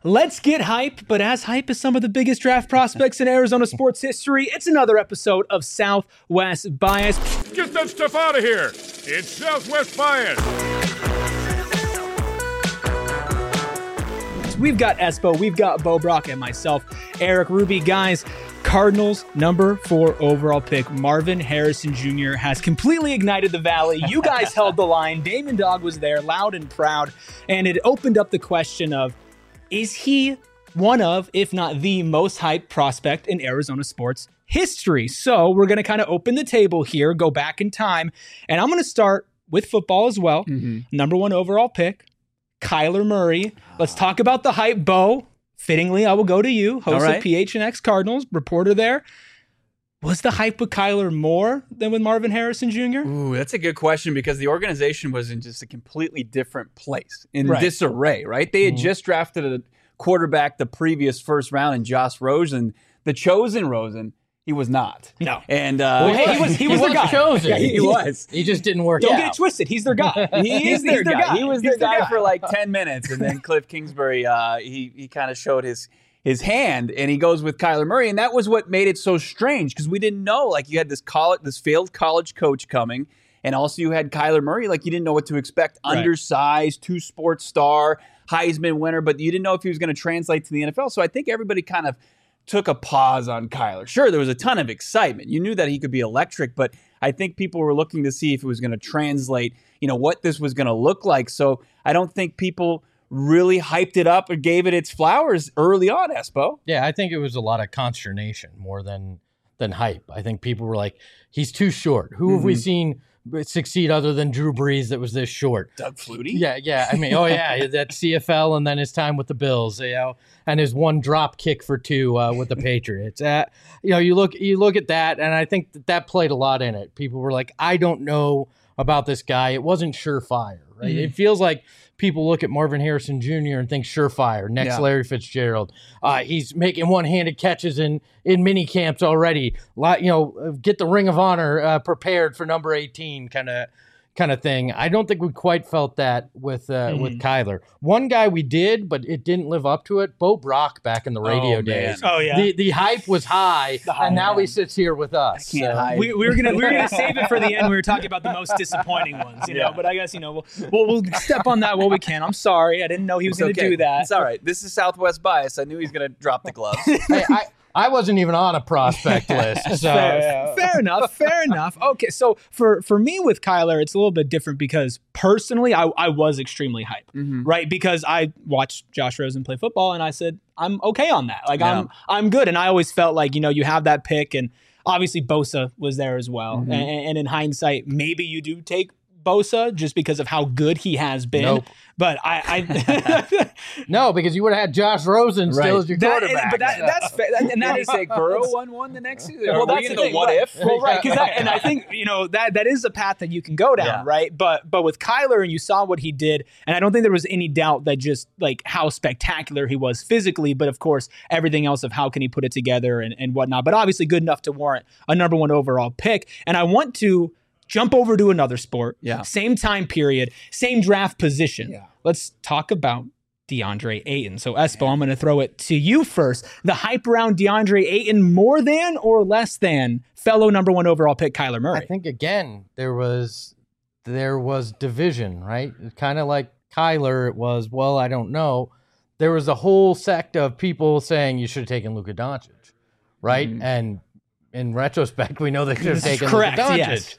Let's get hype, but as hype as some of the biggest draft prospects in Arizona sports history, it's another episode of Southwest Bias. Get that stuff out of here! It's Southwest Bias! We've got Espo, we've got Bo Brock, and myself, Eric Ruby. Guys, Cardinals number 4 overall pick, Marvin Harrison Jr. has completely ignited the valley. You guys held the line. Damon Dog was there, loud and proud, and it opened up the question of, is he one of, if not the most hyped prospect in Arizona sports history? So we're going to kind of open the table here, go back in time, and I'm going to start with football as well. Number 1 overall pick, Kyler Murray. Let's talk about the hype. Bo, fittingly, I will go to you, host of PHNX Cardinals, reporter there. Was the hype with Kyler more than with Marvin Harrison Jr.? Ooh, that's a good question because the organization was in just a completely different place, in disarray, right? They had just drafted a quarterback the previous first round in Josh Rosen, the chosen Rosen. He was not. No. And he was their guy. Chosen. Yeah, he was. He just didn't work Don't out. get it twisted. He's their guy. He is their guy. He was their guy guy for like 10 minutes. And then Cliff Kingsbury, he kind of showed his hand, and he goes with Kyler Murray. And that was what made it so strange because we didn't know. Like, you had this failed college coach coming, and also you had Kyler Murray. Like, you didn't know what to expect. Right. Undersized, 2-sport star, Heisman winner, but you didn't know if he was going to translate to the NFL. So I think everybody kind of took a pause on Kyler. Sure, there was a ton of excitement. You knew that he could be electric, but I think people were looking to see if it was going to translate, what this was going to look like. So I don't think people really hyped it up or gave it its flowers early on, Espo. Yeah, I think it was a lot of consternation more than hype. I think people were like, he's too short. Who have we seen succeed other than Drew Brees that was this short? Doug Flutie? Yeah. I mean, that CFL and then his time with the Bills, and his one drop kick for 2 with the Patriots. You look at that, and I think that played a lot in it. People were like, I don't know about this guy. It wasn't surefire, right? It feels like people look at Marvin Harrison Jr. and think surefire, next Larry Fitzgerald. He's making one-handed catches in mini camps already. Get the Ring of Honor prepared for number 18 kind of thing. I don't think we quite felt that with Kyler. One guy we did, but it didn't live up to it. Bo Brock back in the radio days. Oh yeah, the hype was high, and now he sits here with us. I can't hide. we were gonna save it for the end. We were talking about the most disappointing ones, But I guess we'll step on that while we can. I'm sorry, I didn't know he was going to do that. It's all right. This is Southwest Bias. I knew he was going to drop the gloves. Hey, I wasn't even on a prospect list. So Fair enough. Okay, so for me with Kyler, it's a little bit different because personally, I was extremely hyped, right? Because I watched Josh Rosen play football, and I said I'm okay on that. Like I'm good, and I always felt like you have that pick, and obviously Bosa was there as well. And in hindsight, maybe you do take Bosa just because of how good he has been. Nope. But I no, because you would have had Josh Rosen still as your quarterback. But that's fair. And that is like Burrow won one the next season. Well, that's the thing. What if? Well, right, and I think that is a path that you can go down, right? But with Kyler, and you saw what he did, and I don't think there was any doubt that just like how spectacular he was physically, but of course everything else of how can he put it together and whatnot. But obviously good enough to warrant a number 1 overall pick. And I want to jump over to another sport. Yeah. Same time period, same draft position. Yeah. Let's talk about DeAndre Ayton. So, Espo, I'm going to throw it to you first. The hype around DeAndre Ayton more than or less than fellow number 1 overall pick Kyler Murray? I think, again, there was division, right? Kind of like Kyler, it was, well, I don't know. There was a whole sect of people saying you should have taken Luka Doncic, right? And in retrospect, we know they should have taken Luka Doncic. Yes.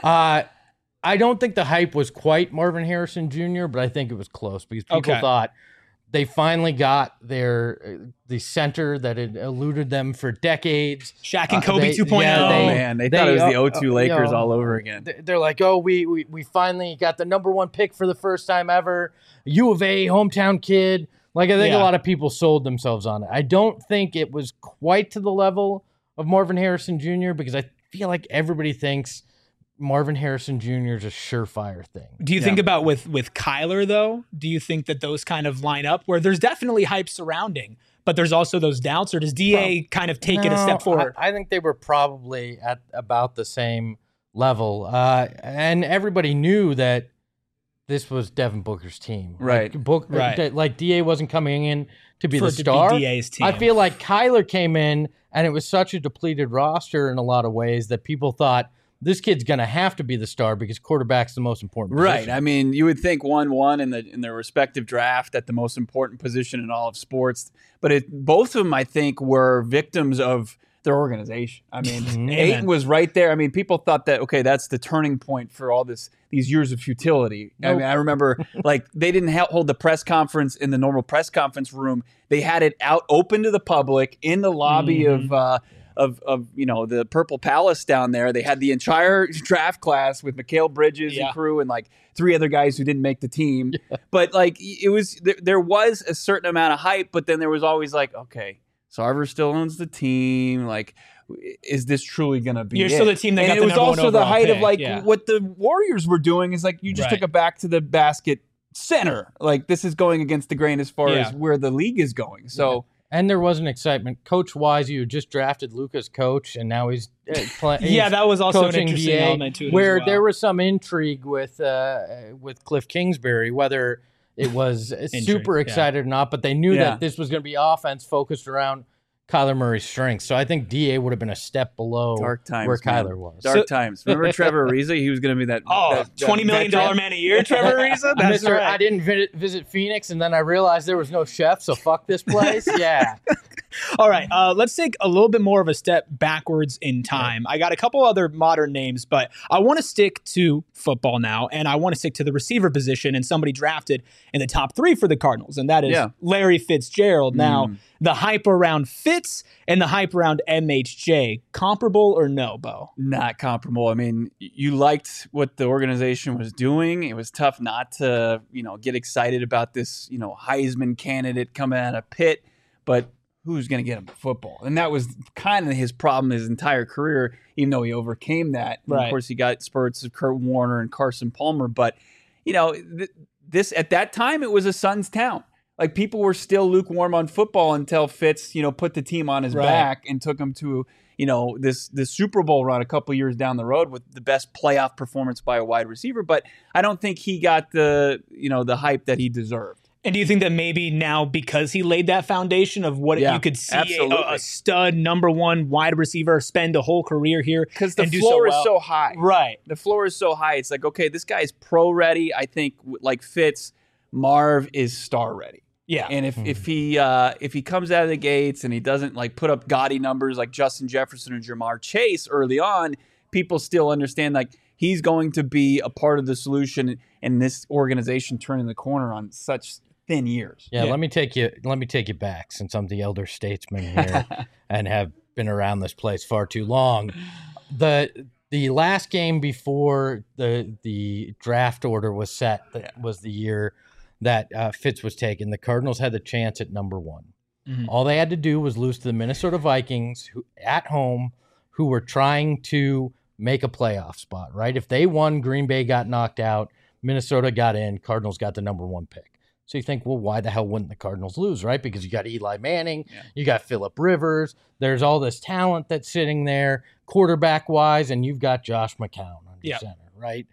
I don't think the hype was quite Marvin Harrison Jr., but I think it was close because people thought they finally got the center that had eluded them for decades. Shaq and Kobe 2.0. They thought it was the O2 Lakers all over again. They're like, we finally got the number 1 pick for the first time ever. U of A, hometown kid. Like, I think a lot of people sold themselves on it. I don't think it was quite to the level of Marvin Harrison Jr. because I feel like everybody thinks Marvin Harrison Jr. is a surefire thing. Do you think about with Kyler, though? Do you think that those kind of line up where there's definitely hype surrounding, but there's also those doubts, or does DA kind of take it a step forward? I think they were probably at about the same level. And everybody knew that this was Devin Booker's team. Right. Like DA wasn't coming in to be For the it to be star. DA's team. I feel like Kyler came in and it was such a depleted roster in a lot of ways that people thought this kid's going to have to be the star because quarterback's the most important position. Right. I mean, you would think 1-1 in their respective draft at the most important position in all of sports, but both of them, I think, were victims of their organization. I mean, Ayton was right there. I mean, people thought that, okay, that's the turning point for all these years of futility. I mean, I remember like they didn't hold the press conference in the normal press conference room. They had it out open to the public in the lobby of the Purple Palace down there. They had the entire draft class with Mikal Bridges and crew and like 3 other guys who didn't make the team. Yeah. But like it was there was a certain amount of hype, but then there was always like, okay, Sarver still owns the team. Like, is this truly going to be You're still the team that got and the it was number one also the overall height pick. of like what the Warriors were doing is like you just took it back to the basket center. Like this is going against the grain as far as where the league is going. So and there was an excitement. Coach Wise, you just drafted Luka's coach, and now he's playing. Yeah, that was also an coaching interesting DA, element to it where as well. there was some intrigue with Cliff Kingsbury, whether it was super excited or not, but they knew that this was going to be offense focused around Kyler Murray's strengths. So I think DA would have been a step below where Kyler was. Dark times. Remember Trevor Ariza? He was going to be that $20 million man a year, Trevor Ariza? That's right. I didn't visit Phoenix, and then I realized there was no chef, so fuck this place. Yeah. All right, let's take a little bit more of a step backwards in time. I got a couple other modern names, but I want to stick to football now, and I want to stick to the receiver position and somebody drafted in the top 3 for the Cardinals, and that is Larry Fitzgerald. Now, the hype around Fitz and the hype around MHJ, comparable or no, Bo? Not comparable. I mean, you liked what the organization was doing. It was tough not to, get excited about this, Heisman candidate coming out of Pitt, but who's going to get him football? And that was kind of his problem his entire career, even though he overcame that. Right. Of course, he got spurts of Kurt Warner and Carson Palmer. But, this at that time, it was a son's town. Like, people were still lukewarm on football until Fitz, put the team on his back and took him to, this Super Bowl run a couple years down the road with the best playoff performance by a wide receiver. But I don't think he got the hype that he deserved. And do you think that maybe now, because he laid that foundation of what you could see a stud number 1 wide receiver spend a whole career here, because the floor is so high, right? The floor is so high. It's like, okay, this guy's pro ready. I think like Fitz, Marv is star ready. Yeah, and if he comes out of the gates and he doesn't like put up gaudy numbers like Justin Jefferson or Jamar Chase early on, people still understand like he's going to be a part of the solution and this organization turning the corner on such thin years. Yeah, let me take you back, since I'm the elder statesman here and have been around this place far too long. The last game before the draft order was set, that was the year that Fitz was taken. The Cardinals had the chance at number 1. Mm-hmm. All they had to do was lose to the Minnesota Vikings at home, who were trying to make a playoff spot, right? If they won, Green Bay got knocked out, Minnesota got in, Cardinals got the number 1 pick. So you think, well, why the hell wouldn't the Cardinals lose, right? Because you got Eli Manning, you got Phillip Rivers, there's all this talent that's sitting there, quarterback-wise, and you've got Josh McCown under center, right?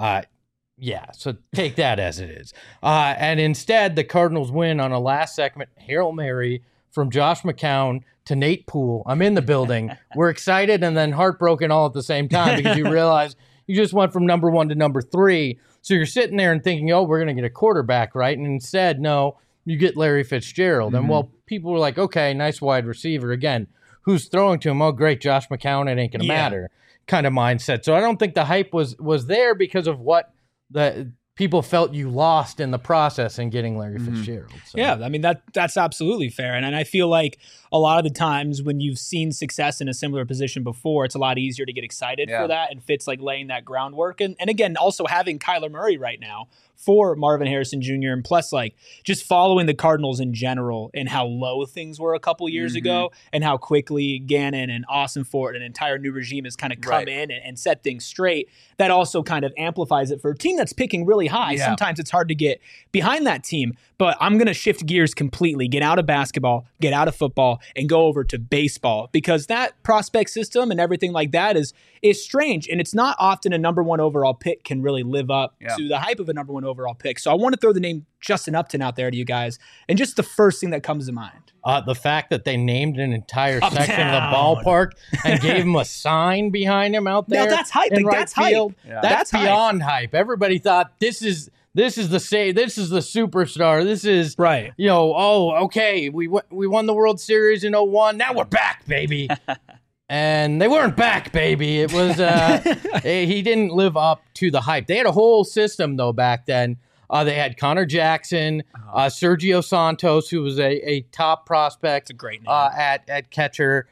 So take that as it is. And instead, the Cardinals win on a last-second Hail Mary from Josh McCown to Nate Poole. I'm in the building. We're excited and then heartbroken all at the same time because you realize you just went from number 1 to number 3. So you're sitting there and thinking, oh, we're going to get a quarterback, right? And instead, no, you get Larry Fitzgerald. Mm-hmm. And people were like, okay, nice wide receiver. Again, who's throwing to him? Oh, great, Josh McCown, it ain't going to matter kind of mindset. So I don't think the hype was there because of what the people felt you lost in the process in getting Larry Fitzgerald. So. Yeah, I mean, that's absolutely fair. And I feel like a lot of the times when you've seen success in a similar position before, it's a lot easier to get excited for that, and Fitz like laying that groundwork. And again, also having Kyler Murray right now for Marvin Harrison Jr. and plus like just following the Cardinals in general and how low things were a couple years ago and how quickly Gannon and Austin Ford and an entire new regime has kind of come in and set things straight. That also kind of amplifies it for a team that's picking really high. Yeah. Sometimes it's hard to get behind that team. But I'm going to shift gears completely, get out of basketball, get out of football, and go over to baseball, because that prospect system and everything like that is strange. And it's not often a number 1 overall pick can really live up to the hype of a number 1 overall pick. So I want to throw the name Justin Upton out there to you guys. And just the first thing that comes to mind. The fact that they named an entire section of the ballpark and gave him a sign behind him out there. Now that's hype. in Like, right that's hype. field. Yeah. That's That's beyond hype. Everybody thought this is the superstar. This is Right. okay, we won the World Series in 01. Now we're back, baby. And they weren't back, baby. It was he didn't live up to the hype. They had a whole system though back then. They had Connor Jackson, Sergio Santos, who was a top prospect. It's a great name. At catcher,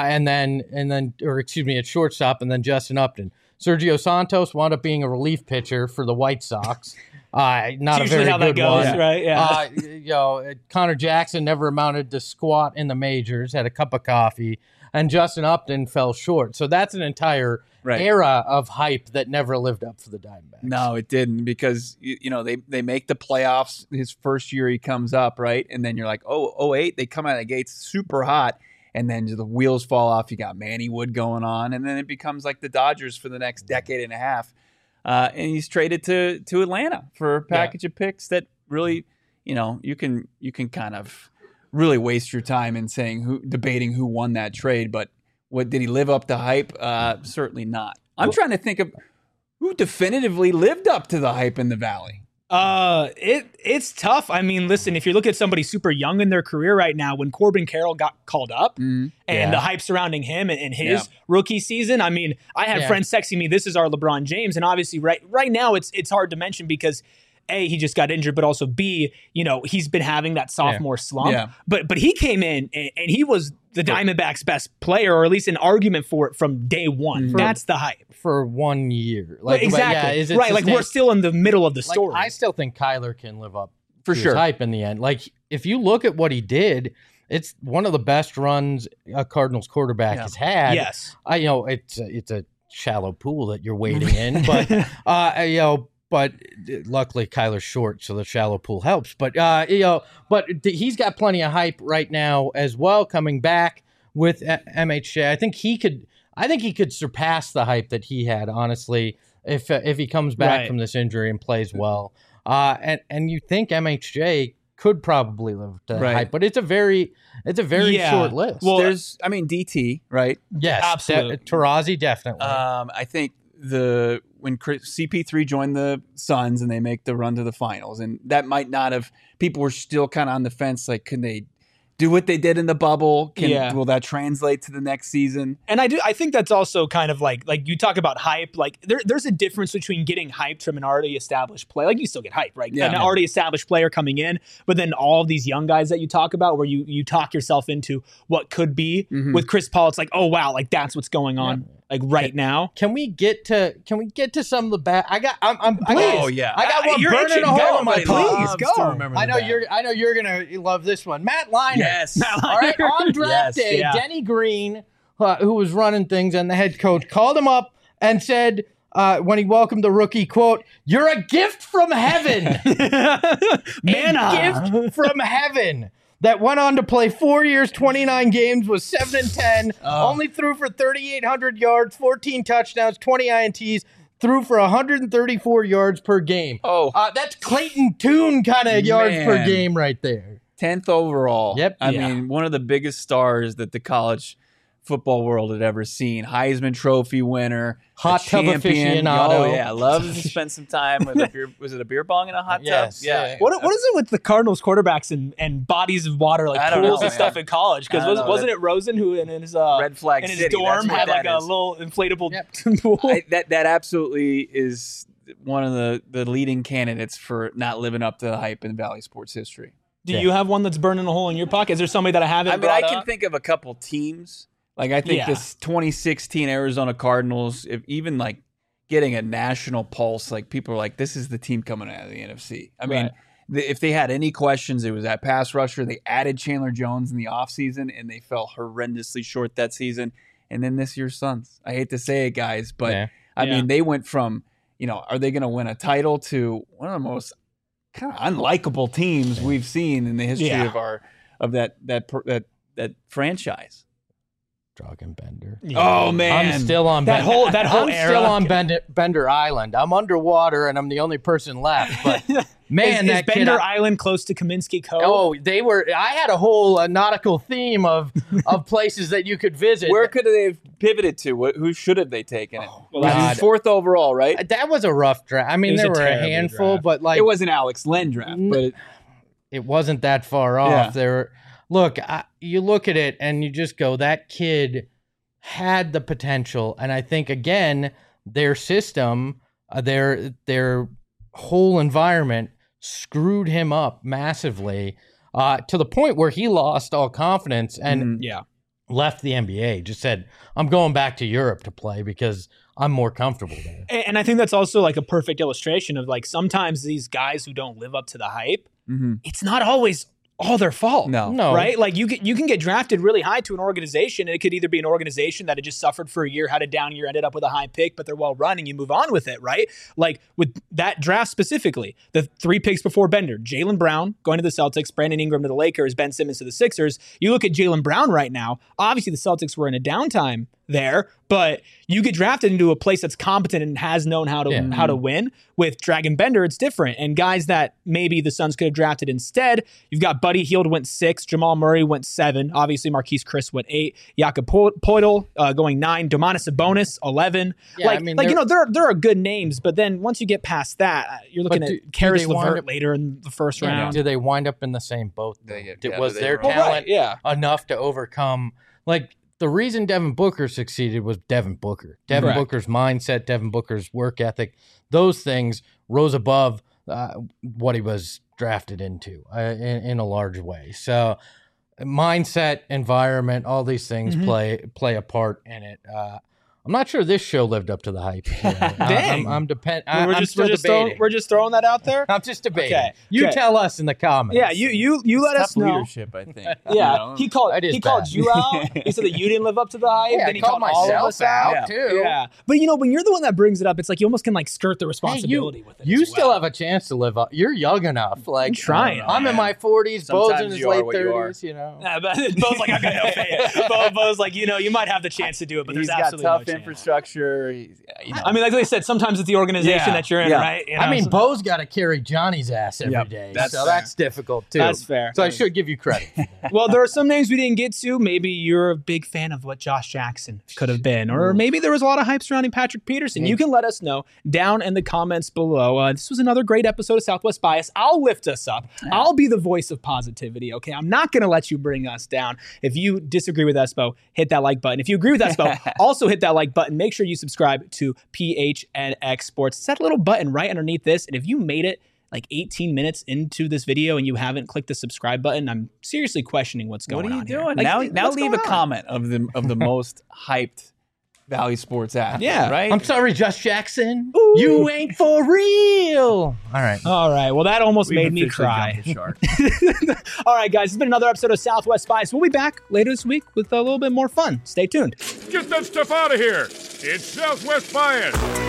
at shortstop, and then Justin Upton. Sergio Santos wound up being a relief pitcher for the White Sox. Not a usually very how that good goes, one, right? Yeah. Connor Jackson never amounted to squat in the majors. Had a cup of coffee, and Justin Upton fell short. So that's an entire era of hype that never lived up for the Diamondbacks. No, it didn't, because they make the playoffs his first year he comes up, right? And then you're like, 08, they come out of the gates super hot, and then the wheels fall off. You got Manny Wood going on, and then it becomes like the Dodgers for the next decade and a half. And he's traded to Atlanta for a package of picks that really, you can kind of really waste your time in debating who won that trade. But what did he live up to hype? Certainly not. I'm trying to think of who definitively lived up to the hype in the Valley. It's tough. I mean, listen, if you look at somebody super young in their career right now, when Corbin Carroll got called up and the hype surrounding him and his rookie season, I mean, I had friends texting me, this is our LeBron James. And obviously right now it's hard to mention because A, he just got injured, but also B, he's been having that sophomore slump. Yeah. But he came in and he was the Diamondbacks' best player, or at least an argument for it from day one. That's the hype. For 1 year. Exactly. Is it right. Like, we're still in the middle of the story. I still think Kyler can live up For to sure. his hype in the end. Like, if you look at what he did, it's one of the best runs a Cardinals quarterback has had. Yes. It's a shallow pool that you're wading in, but but luckily Kyler's short, so the shallow pool helps. But he's got plenty of hype right now as well. Coming back with MHJ, I think he could surpass the hype that he had. Honestly, if he comes back from this injury and plays well, and you think MHJ could probably live to hype, but it's a very short list. Well, there's DT, right? Yes, absolutely. Tarazi definitely. I think when CP3 joined the Suns and they make the run to the finals, and that might not have, people were still kind of on the fence, like, can they do what they did in the bubble? Will that translate to the next season? And I think that's also kind of like you talk about hype. Like there's a difference between getting hyped from an already established player. Like, you still get hype, right? Yeah. An already established player coming in, but then all of these young guys that you talk about, where you talk yourself into what could be. With Chris Paul, it's like, oh wow, like that's what's going on right now. Can we get to some of the bad? I got one You're burning itching. a hole Go, in my please, butt. go. I know you're gonna love this one. Matt Leinart. Yes. All right. On draft day, Denny Green, who was running things, and the head coach called him up and said, when he welcomed the rookie, quote, "You're a gift from heaven." Manna. Gift from heaven. That went on to play 4 years, 29 games, was 7-10, only threw for 3,800 yards, 14 touchdowns, 20 INTs, threw for 134 yards per game. That's Clayton Tune kind of yards per game right there. 10th overall. Yep. I mean, one of the biggest stars that the college football world had ever seen. Heisman Trophy winner. Hot tub champion. aficionado. Oh, yeah. Loves to spend some time with a beer. Was it a beer bong in a hot tub? Yes. Yeah. What is it with the Cardinals quarterbacks and bodies of water, like I don't pools know, and stuff man. in college? Because wasn't it Rosen who in his Red Flag in his City, dorm that's what had like that a is. little inflatable pool? That absolutely is one of the leading candidates for not living up to the hype in Valley sports history. Do you have one that's burning a hole in your pocket? Is there somebody that I haven't? I mean, I can think of a couple teams. Like, I think Yeah. this 2016 Arizona Cardinals, if even like getting a national pulse, like people are like, this is the team coming out of the NFC. I mean, if they had any questions, it was that pass rusher. They added Chandler Jones in the offseason, and they fell horrendously short that season. And then this year's Suns. I hate to say it, guys, but I mean, they went from are they going to win a title to one of the most kind of unlikable teams we've seen in the history of that franchise? Dragan Oh man, I'm still on that whole I'm era. still on Bender Island. I'm underwater and I'm the only person left. But man, is that Bender kid, Island close to Kaminsky Cove? Oh, they were. I had a whole nautical theme of places that you could visit. where could they have pivoted to? Who should have they taken it? well, He was God. 4th overall, right? That was a rough draft. I mean, It was there a were a terrible handful, draft. but like It wasn't Alex Len draft, but it wasn't that far off. Yeah. There, look, you look at it and you just go, that kid had the potential, and I think again, their system, their whole environment screwed him up massively, to the point where he lost all confidence and Yeah. left the NBA. Just said, "I'm going back to Europe to play because I'm more comfortable there." And I think that's also like a perfect illustration of like sometimes these guys who don't live up to the hype, it's not always all their fault. No. Right? Like you can get drafted really high to an organization, and it could either be an organization that had just suffered for a year, had a down year, ended up with a high pick, but they're well run and you move on with it, right? Like with that draft specifically, the 3 picks before Bender, Jaylen Brown going to the Celtics, Brandon Ingram to the Lakers, Ben Simmons to the Sixers. You look at Jaylen Brown right now, obviously the Celtics were in a downtime there, but you get drafted into a place that's competent and has known how to win. With Dragan Bender, it's different. And guys that maybe the Suns could have drafted instead, you've got Buddy Hield went 6, Jamal Murray went 7, obviously Marquise Chris went 8, Jakob Poeltl going 9, Domantas Sabonis 11. Yeah, I mean, there are good names, but then once you get past that, you're looking But at do Karis they wind LeVert up- later in the first Yeah, round. do they wind up in the same boat? Though? Was their Well, talent yeah. enough to overcome? Like the reason Devin Booker succeeded was Devin Booker. Devin Correct. Booker's mindset, Devin Booker's work ethic, those things rose above what he was drafted into in a large way. So mindset, environment, all these things play a part in it. I'm not sure this show lived up to the hype. Dang. I'm we're just debating. we're just throwing that out there. I'm just debating. Okay. You Okay. tell us in the comments. Yeah, you let us Tough know. leadership, I think. Yeah, he called That is called bad. you out. He said that you didn't live up to the hype. Yeah, then I he called all of myself us out. out, too. Yeah, but when you're the one that brings it up, it's like you almost can like skirt the Hey, responsibility with it. you as still well. have a chance to live up. You're young enough. Like I'm trying. I'm in my 40s. Bo's Sometimes in his you are late what you are. 30s. You know. Yeah, but Bo's like, I'm gonna no pay it. Bo's like, you might have the chance to do it, but He's there's got absolutely tough no chance. infrastructure. I mean, like they said, sometimes it's the organization that you're in, right? I mean, Bo's got to carry Johnny's ass every Yep, day, that's so fair. that's difficult too. That's fair. So I should give you credit. for that. Well, there are some names we didn't get to. Maybe you're a big fan of what Josh Jackson could have been, or maybe there was a lot of hype surrounding Patrick Peterson. You can let us know down in the comments below. This was another great episode of Southwest Bias. I'll lift us up. I'll be the voice of positivity, okay? I'm not going to let you bring us down. If you disagree with Espo, hit that like button. If you agree with Espo, also hit that like button. Make sure you subscribe to PHNX Sports. It's that little button right underneath this, and if you made it like 18 minutes into this video and you haven't clicked the subscribe button, I'm seriously questioning what's going What on are you here. doing? Like, now what's leave going a on? comment of the most hyped Valley Sports athlete. Yeah. Right? I'm sorry, Josh Jackson. You ain't for real. All right. All right. Well, that almost We've made me officially cry. jumped the shark. All right, guys. It's been another episode of Southwest Spice. We'll be back later this week with a little bit more fun. Stay tuned. Get that stuff out of here. It's Southwest Bias.